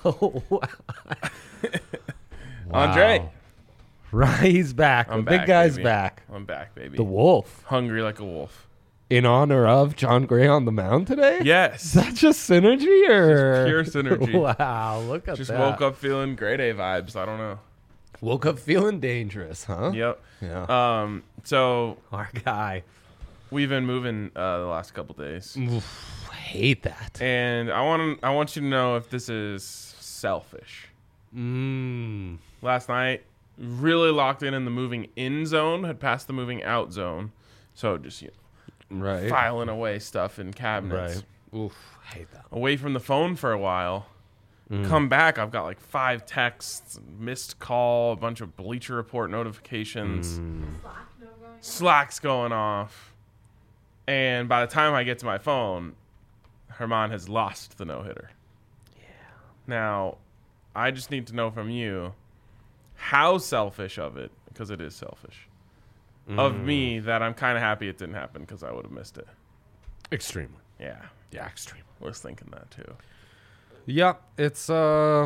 Wow. Andre. Right, he's back. I'm The big back, guy's baby. back. I'm back, baby. The wolf. Hungry like a wolf. In honor of John Gray on the mound today? Yes. Is that just synergy or? Pure synergy. Wow, look at Just that. woke up feeling grade A vibes. I don't know. Woke up feeling dangerous, huh? Yep. Yeah. So Our guy. we've been moving the last couple days, Oof, I hate that. and I want you to know if this is selfish. Last night, really locked in the moving in zone, had passed the moving out zone, so just Right. filing away stuff in cabinets. Right. Oof, I hate that. Away from the phone for a while. Come back, I've got like 5 texts, missed call, a bunch of Bleacher Report notifications. Slack's going off. And by the time I get to my phone, Herman has lost the no-hitter. Yeah. Now, I just need to know from you how selfish of it, because it is selfish, of me that I'm kind of happy it didn't happen because I would have missed it. Extremely. Yeah. Yeah, extremely. Was thinking that too. Yep, it's 10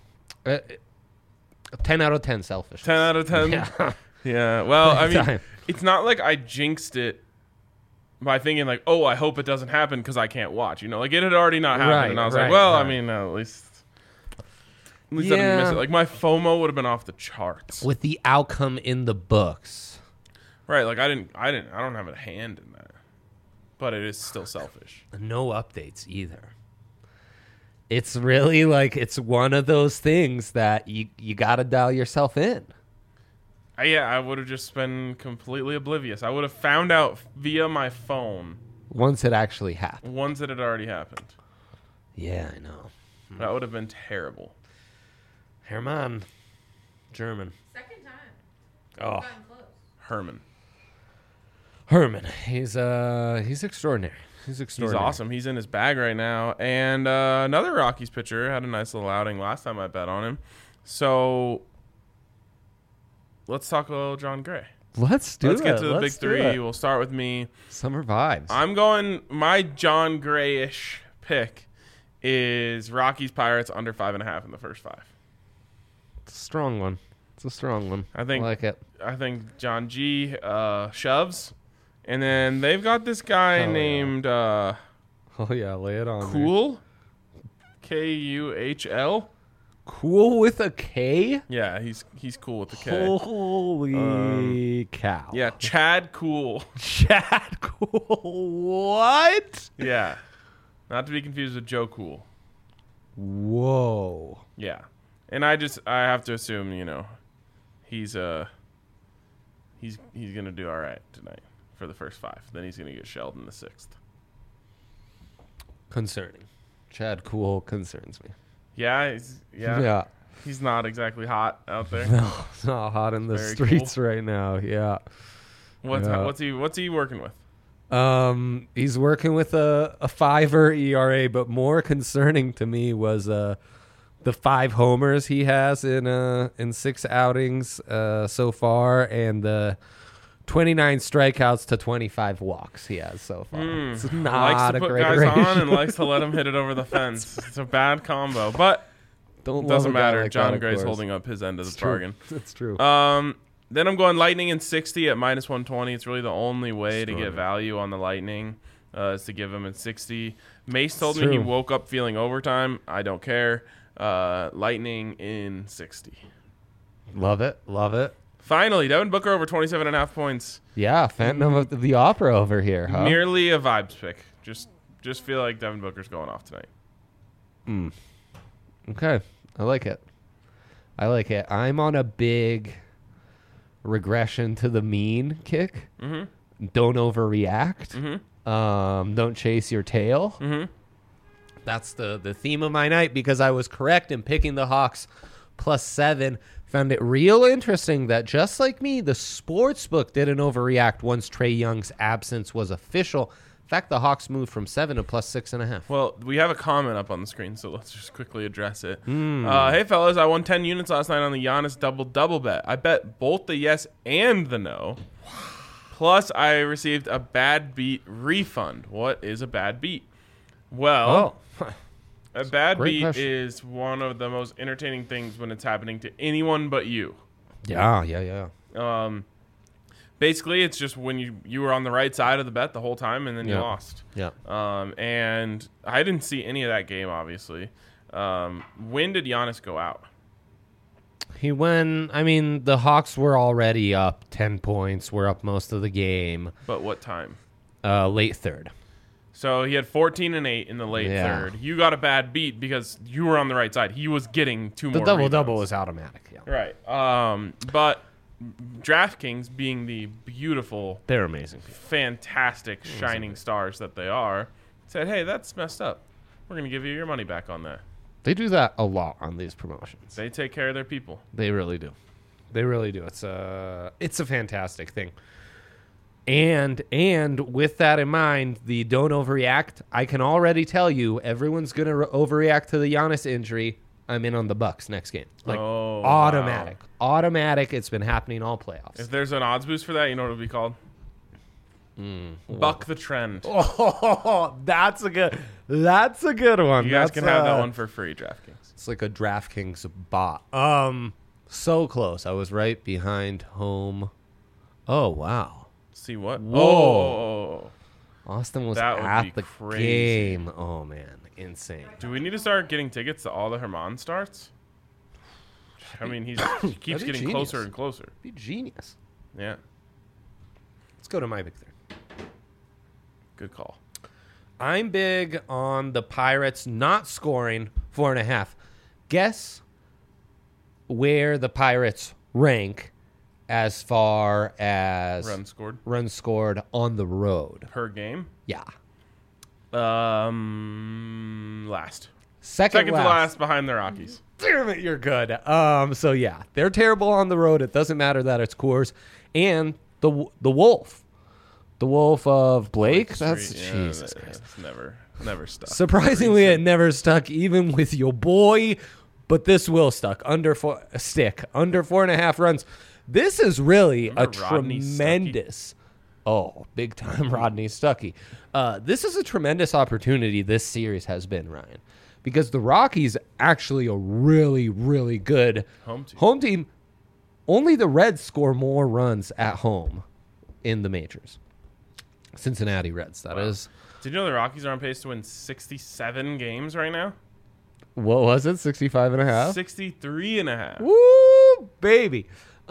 out of 10 selfish. 10 out of 10? Yeah. Yeah. Well, I mean, Time. it's not like I jinxed it by thinking like, oh, I hope it doesn't happen because I can't watch. Like it had already not happened. Right, and I was right, like, well, right. I mean, at least I didn't miss it. Like my FOMO would have been off the charts. With the outcome in the books. Right. Like I don't have a hand in that. But it is still selfish. No updates either. It's really like it's one of those things that you got to dial yourself in. I would have just been completely oblivious. I would have found out via my phone Once it actually happened. once it had already happened. Yeah, I know. That would have been terrible. Herman. German. Second time. Oh, Gotten close. Herman. Herman. He's extraordinary. He's He's extraordinary. awesome. He's in his bag right now. And another Rockies pitcher had a nice little outing last time I bet on him. So let's talk a little John Gray. Let's Let's get to the big three. We'll start with me. Summer vibes. I'm going, my John Gray-ish pick is Rockies Pirates under 5.5 in the first 5. It's a strong one. It's a strong one. I think- like it. I think John G shoves. And then they've got this guy Oh, yeah. named Oh yeah, lay it on. me. Cool. Kuhl. Cool with a K? Yeah, he's cool with the K. Holy cow. Yeah, Chad Cool. Chad Cool. What? Yeah. Not to be confused with Joe Cool. Whoa. Yeah. And I have to assume, he's going to do all right tonight for the first 5. Then he's going to get shelled in the 6th. Concerning. Chad Cool concerns me. Yeah, he's not exactly hot out there. No, it's not hot in the Very streets right now. Yeah. What's he working with? He's working with a 5 ERA, but more concerning to me was the 5 homers he has in 6 outings so far, and the 29 strikeouts to 25 walks he has so far. It's Likes not to a put great guys ratio. on and likes to let them hit it over the fence. It's a bad combo, but Don't love doesn't a guy matter. like John that, of Gray's course. holding up his end of the It's true. bargain. It's true. Then I'm going Lightning in 60 at minus 120. It's really the only way to get value on the Lightning is to give him at 60. Mace told me he true. woke up feeling overtime. I don't care. Lightning in 60. Love it. Love it. Finally, Devin Booker over 27.5 points. Yeah, Phantom of the Opera over here, huh? Merely a vibes pick. Just feel like Devin Booker's going off tonight. Okay. I like it. I'm on a big regression to the mean kick. Mm-hmm. Don't overreact. Mm-hmm. Don't chase your tail. Mm-hmm. That's the theme of my night because I was correct in picking the Hawks +7. Found it real interesting that just like me, the sportsbook didn't overreact once Trae Young's absence was official. In fact, the Hawks moved from 7 to +6.5. Well, we have a comment up on the screen, so let's just quickly address it. Hey, fellas, I won 10 units last night on the Giannis double bet. I bet both the yes and the no. Plus, I received a bad beat refund. What is a bad beat? Well, A bad Great beat question. is one of the most entertaining things when it's happening to anyone but you. Yeah. Basically, it's just when you were on the right side of the bet the whole time, and then you Yeah. lost. Yeah. And I didn't see any of that game, obviously. When did Giannis go out? He went. I mean, the Hawks were already up 10 points. Were up most of the game. But what time? Late third. So he had 14 and 8 in the late third. You got a bad beat because you were on the right side. He was getting two The more double-double rebounds. was automatic. Yeah. Right. But DraftKings, being the beautiful, They're amazing people. fantastic, shining stars that they are, said, hey, that's messed up. We're going to give you your money back on that. They do that a lot on these promotions. They take care of their people. They really do. They really do. It's a fantastic thing. And with that in mind, the don't overreact. I can already tell you, everyone's gonna overreact to the Giannis injury. I'm in on the Bucks next game. Like automatic, automatic. It's been happening all playoffs. If there's an odds boost for that, you know what it'll be called? Buck the trend. Oh, that's a good one. You guys can have that one for free, DraftKings. It's like a DraftKings bot. So close. I was right behind home. Oh wow. See what? Whoa. Oh. Austin was That would at be the crazy. game. Oh man, insane. Do we need to start getting tickets to all the Herman starts? I mean, he keeps be getting genius. closer and closer. Be genius. Yeah, Let's go to my big third. good call. I'm big on the Pirates not scoring 4.5. Guess where the Pirates rank as far as Runs scored runs scored on the road. per game. Yeah. Last. Second to last behind the Rockies. Damn it, you're good. So yeah, they're terrible on the road. It doesn't matter that it's Coors. And the Wolf. The Wolf of Blake. That's Jesus Christ. It's never stuck. Surprisingly, it never stuck, even with your boy. But this will stuck under 4.5 runs. This is really Remember a Rodney tremendous. Oh, big time Rodney Stuckey. This is a tremendous opportunity this series has been, Ryan, because the Rockies actually a really, really good home team. Only the Reds score more runs at home in the majors. Cincinnati Reds, that is. Did you know the Rockies are on pace to win 67 games right now? What was it? 65.5? 63.5. Woo, baby.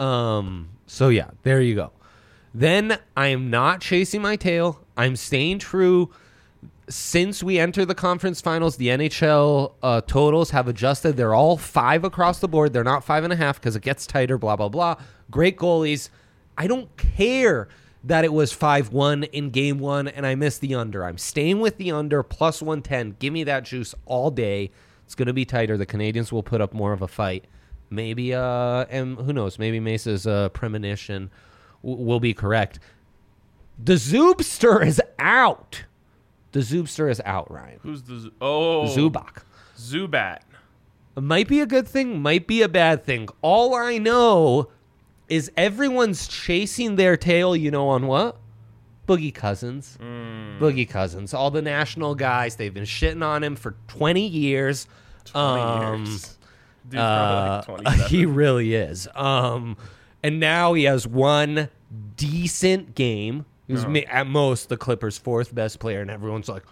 So yeah, there you go. Then I am not chasing my tail. I'm staying true. Since we enter the conference finals, the NHL totals have adjusted. They're all 5 across the board. They're not 5.5 because it gets tighter, blah, blah, blah. Great goalies. I don't care that it was 5-1 in game 1 and I missed the under. I'm staying with the under plus 110. Give me that juice all day. It's going to be tighter. The Canadians will put up more of a fight. Maybe, and who knows, maybe Mesa's premonition will be correct. The Zoobster is out. The Zoobster is out, Ryan. Who's the Zubac. Zubat. It might be a good thing, might be a bad thing. All I know is everyone's chasing their tail, you know, on what? Boogie Cousins. Boogie Cousins. All the national guys, they've been shitting on him for 20 years. 20 years. Dude's probably like 27. He really is. And now he has one decent game. He was at most the Clippers' 4th best player, and everyone's like,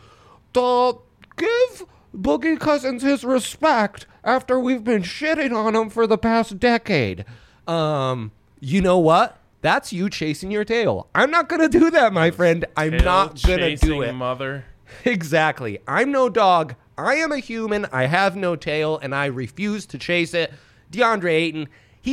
give Boogie Cousins his respect after we've been shitting on him for the past decade. You know what? That's you chasing your tail. I'm not going to do that, my friend. I'm not going to do it. Mother. Exactly. I'm no dog. I am a human. I have no tail, and I refuse to chase it. DeAndre Ayton.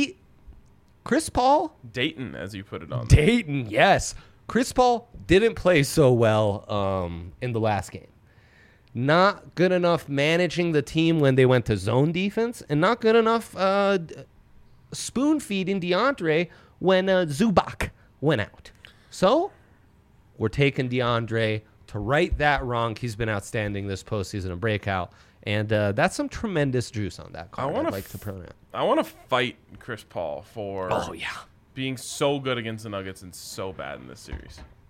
Chris Paul? Dayton, as you put it on. Dayton, yes. Chris Paul didn't play so well in the last game. Not good enough managing the team when they went to zone defense, and not good enough spoon-feeding DeAndre when Zubac went out. So, we're taking DeAndre to right that wrong. He's been outstanding this postseason and breakout. And that's some tremendous juice on that card. I'd like to pronounce. I want to fight Chris Paul for Oh, yeah. being so good against the Nuggets and so bad in this series.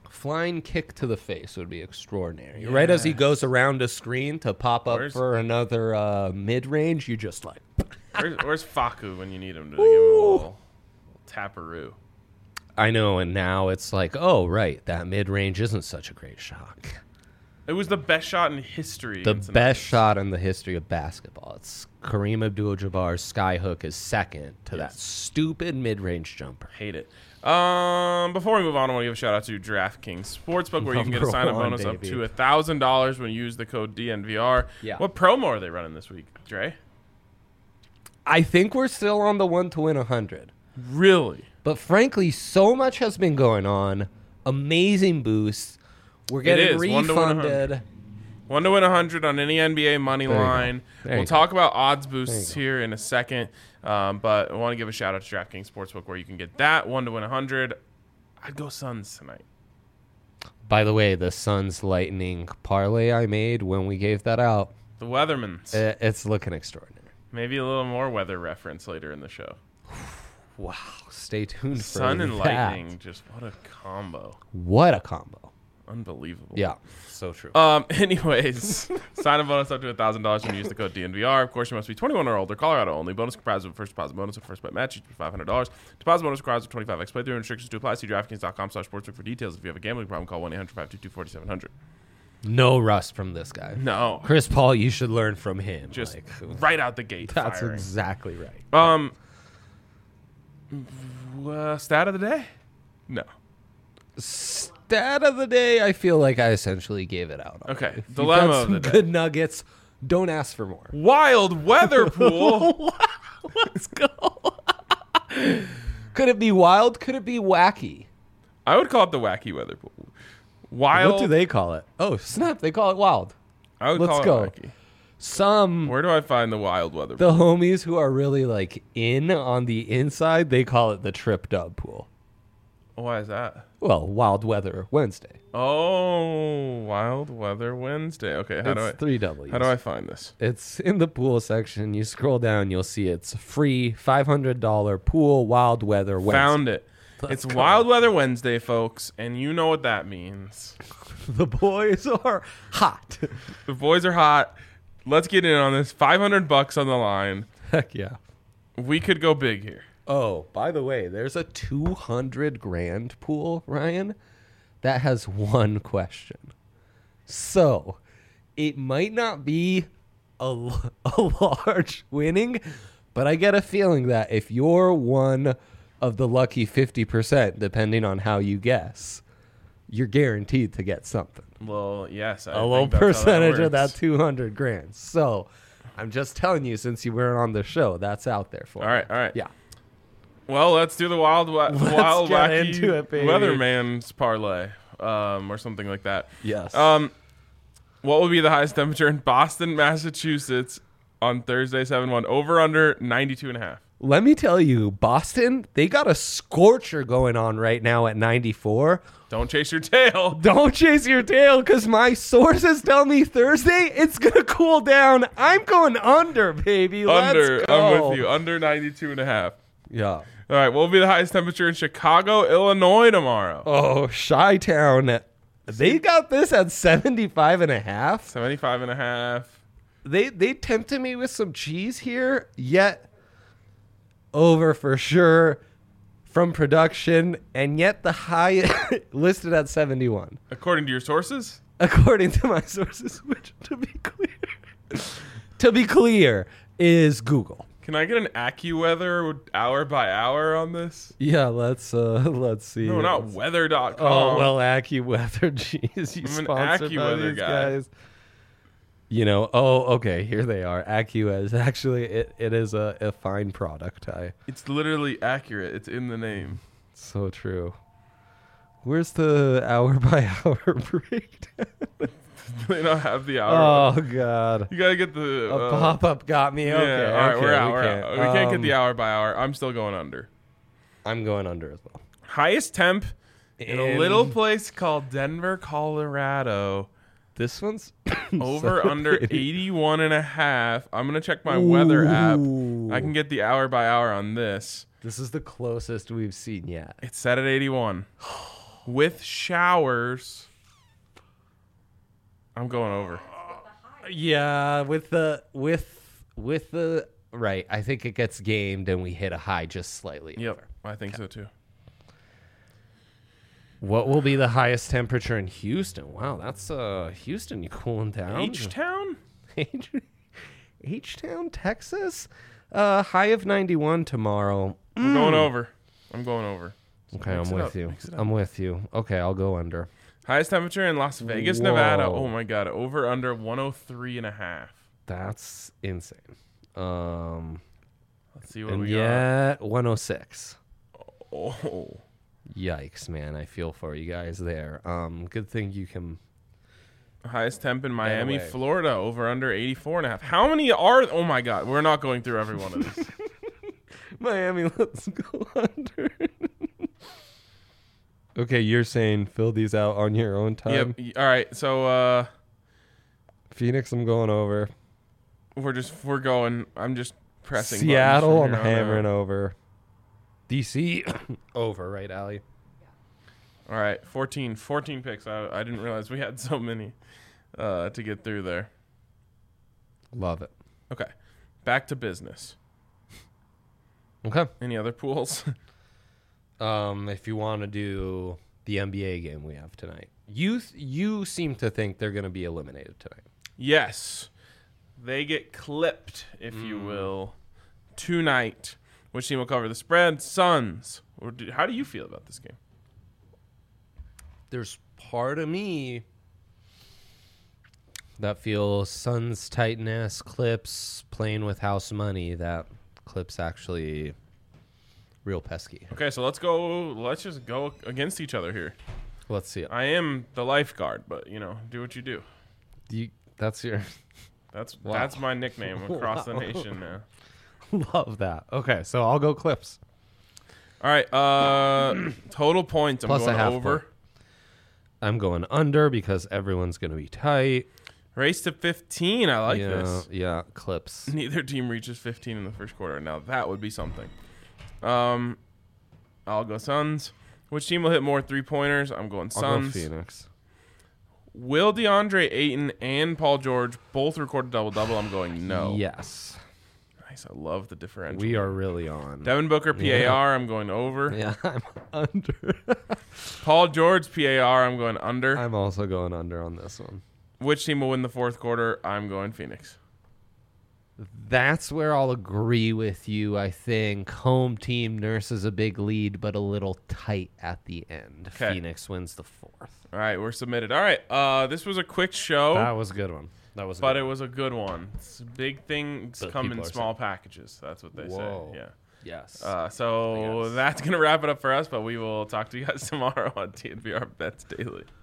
Flying kick to the face would be extraordinary. Yes. Right as he goes around a screen to pop up for another mid-range, you just like... where's Faku when you need him to give him a little taparoo? I know, and now it's like, oh, right, that mid-range isn't such a great shot. It was the best shot in history. The best shot in the history of basketball. It's Kareem Abdul-Jabbar's skyhook is second to that stupid mid-range jumper. Hate it. Before we move on, I want to give a shout out to DraftKings Sportsbook, where you can get a sign-up bonus up to $1,000 when you use the code DNVR. Yeah. What promo are they running this week, Dre? I think we're still on the 1 to win 100. Really? But frankly, so much has been going on. Amazing boosts. We're getting refunded. 1 to win 100 on any NBA money line. We'll talk about odds boosts here in a second. But I want to give a shout out to DraftKings Sportsbook, where you can get that 1 to win 100. I'd go Suns tonight. By the way, the Suns Lightning parlay I made when we gave that out. The Weathermans. It's looking extraordinary. Maybe a little more weather reference later in the show. Wow. Stay tuned for Sun and Lightning. Just what a combo. What a combo. Unbelievable. Yeah, so true. Anyways, sign a bonus up to $1,000 when you use the code DNVR. Of course, you must be 21 or older. Colorado only. Bonus comprised of a first deposit bonus and first bet match, each $500. Deposit bonus requires a 25x playthrough. Restrictions to apply. See DraftKings.com/sportsbook for details. If you have a gambling problem, call 1-800-522-4700. No rust from this guy. No. Chris Paul, you should learn from him. Just right out the gate. That's firing. Exactly right. Stat of the day? No. Stat of the day, I feel like I essentially gave it out. Okay. If Dilemma of the day. Good nuggets. Don't ask for more. Wild weather pool. Let's go. Could it be wild? Could it be wacky? I would call it the wacky weather pool. Wild. What do they call it? Oh, snap. They call it wild. I would call it wacky. Where do I find the wild weather pool? The homies who are really like in on the inside, they call it the Trip Dub pool. Why is that? Well, Wild Weather Wednesday. Oh, Wild Weather Wednesday. Okay, it's 3 W's. How do I find this? It's in the pool section. You scroll down, you'll see it's free $500 pool Wild Weather Wednesday. Found it. It's Wild Weather Wednesday, folks, and you know what that means. The boys are hot. The boys are hot. Let's get in on this. $500 on the line. Heck yeah. We could go big here. Oh, by the way, there's a $200,000 pool, Ryan, that has one question. So, it might not be a large winning, but I get a feeling that if you're one of the lucky 50%, depending on how you guess, you're guaranteed to get something. Well, yes. A low percentage of that $200,000. So, I'm just telling you, since you weren't on the show, that's out there for you. All right. Yeah. Well, let's do the wild wacky into it, baby. Weatherman's parlay, or something like that. Yes. What will be the highest temperature in Boston, Massachusetts on Thursday, 7/1? Over under 92.5. Let me tell you, Boston, they got a scorcher going on right now at 94. Don't chase your tail. Don't chase your tail, because my sources tell me Thursday it's going to cool down. I'm going under, baby. Let's go. I'm with you. Under 92.5. Yeah. All right, what will be the highest temperature in Chicago, Illinois tomorrow? Oh, Chi-Town. They got this at 75 and a half. 75 and a half. They tempted me with some cheese here, yet over for sure from production, and yet the high listed at 71. According to your sources? According to my sources, which to be clear, is Google. Can I get an AccuWeather hour by hour on this? Yeah, let's see. No, not weather.com. Oh, well, AccuWeather, jeez. You I'm sponsored an by AccuWeather these guy. guys. You know, okay, here they are. AccuWeather. Actually, it is a fine product. It's literally accurate. It's in the name. So true. Where's the hour by hour breakdown? They don't have the hour. Oh, God. You got to get the... A pop-up got me. Okay. Yeah, all right, okay, we're out. We can't get the hour by hour. I'm still going under. I'm going under as well. Highest temp in a little place called Denver, Colorado. This one's... Over under 81 and a half. I'm going to check my weather app. I can get the hour by hour on this. This is the closest we've seen yet. It's set at 81. with showers. I'm going over. Yeah, with the right. I think it gets gamed and we hit a high just slightly. Yep, over. I think so too. What will be the highest temperature in Houston? Wow, that's Houston. You cooling down? H-Town? H-Town, Texas. High of 91 tomorrow. I'm going over. I'm going over. Okay, I'm with you. I'm with you. Okay, I'll go under. Highest temperature in Las Vegas, Nevada. Oh my God, over under 103.5. That's insane. Let's see what and we got. yet 106. Oh. Yikes, man! I feel for you guys there. Good thing you can. Highest temp in Miami, away. Florida, over under 84.5. How many are? Oh my God, we're not going through every one of these. Miami, let's go under. Okay, you're saying fill these out on your own time. Yep. All right. So Phoenix, I'm going over. we're going. I'm just pressing. Seattle, I'm buttons from here on hammering out. over. DC, over, right, Allie? All right, 14 picks. I didn't realize we had so many to get through there. Love it. Okay, back to business. Okay. Any other pools? If you want to do the NBA game we have tonight, you seem to think they're going to be eliminated tonight. Yes, they get clipped, if you will, tonight. Which team will cover the spread? Suns. How do you feel about this game? There's part of me that feels Suns tightness, Clips playing with house money. That Clips actually real pesky. Okay, so let's just go against each other here. Let's see it. I am the lifeguard, but do what you do. That's your That's Wow. that's my nickname across the nation now. love that. Okay, so I'll go Clips. All right, total points. I'm Plus a going half over. point. I'm going under because everyone's going to be tight. Race to 15. I like this. Yeah, Clips. Neither team reaches 15 in the first quarter. Now that would be something. I'll go Suns. Which team will hit more 3-pointers? I'm going I'll Suns. go Phoenix. Will DeAndre Ayton and Paul George both record a double-double? I'm going no. Yes. Nice. I love the differential. We are really on. Devin Booker, PAR. Yeah. I'm going over. Yeah, I'm under. Paul George, PAR. I'm going under. I'm also going under on this one. Which team will win the fourth quarter? I'm going Phoenix. That's where I'll agree with you. I think home team nurses a big lead, but a little tight at the end. Okay. Phoenix wins the fourth. All right, we're submitted. All right, this was a quick show, That was a good one. That was. but it was a good one. Big things But come people in are small packages. That's what they Whoa. say. Yeah. Yes. So Yes. that's going to wrap it up for us, but we will talk to you guys tomorrow on TNBR Bets Daily.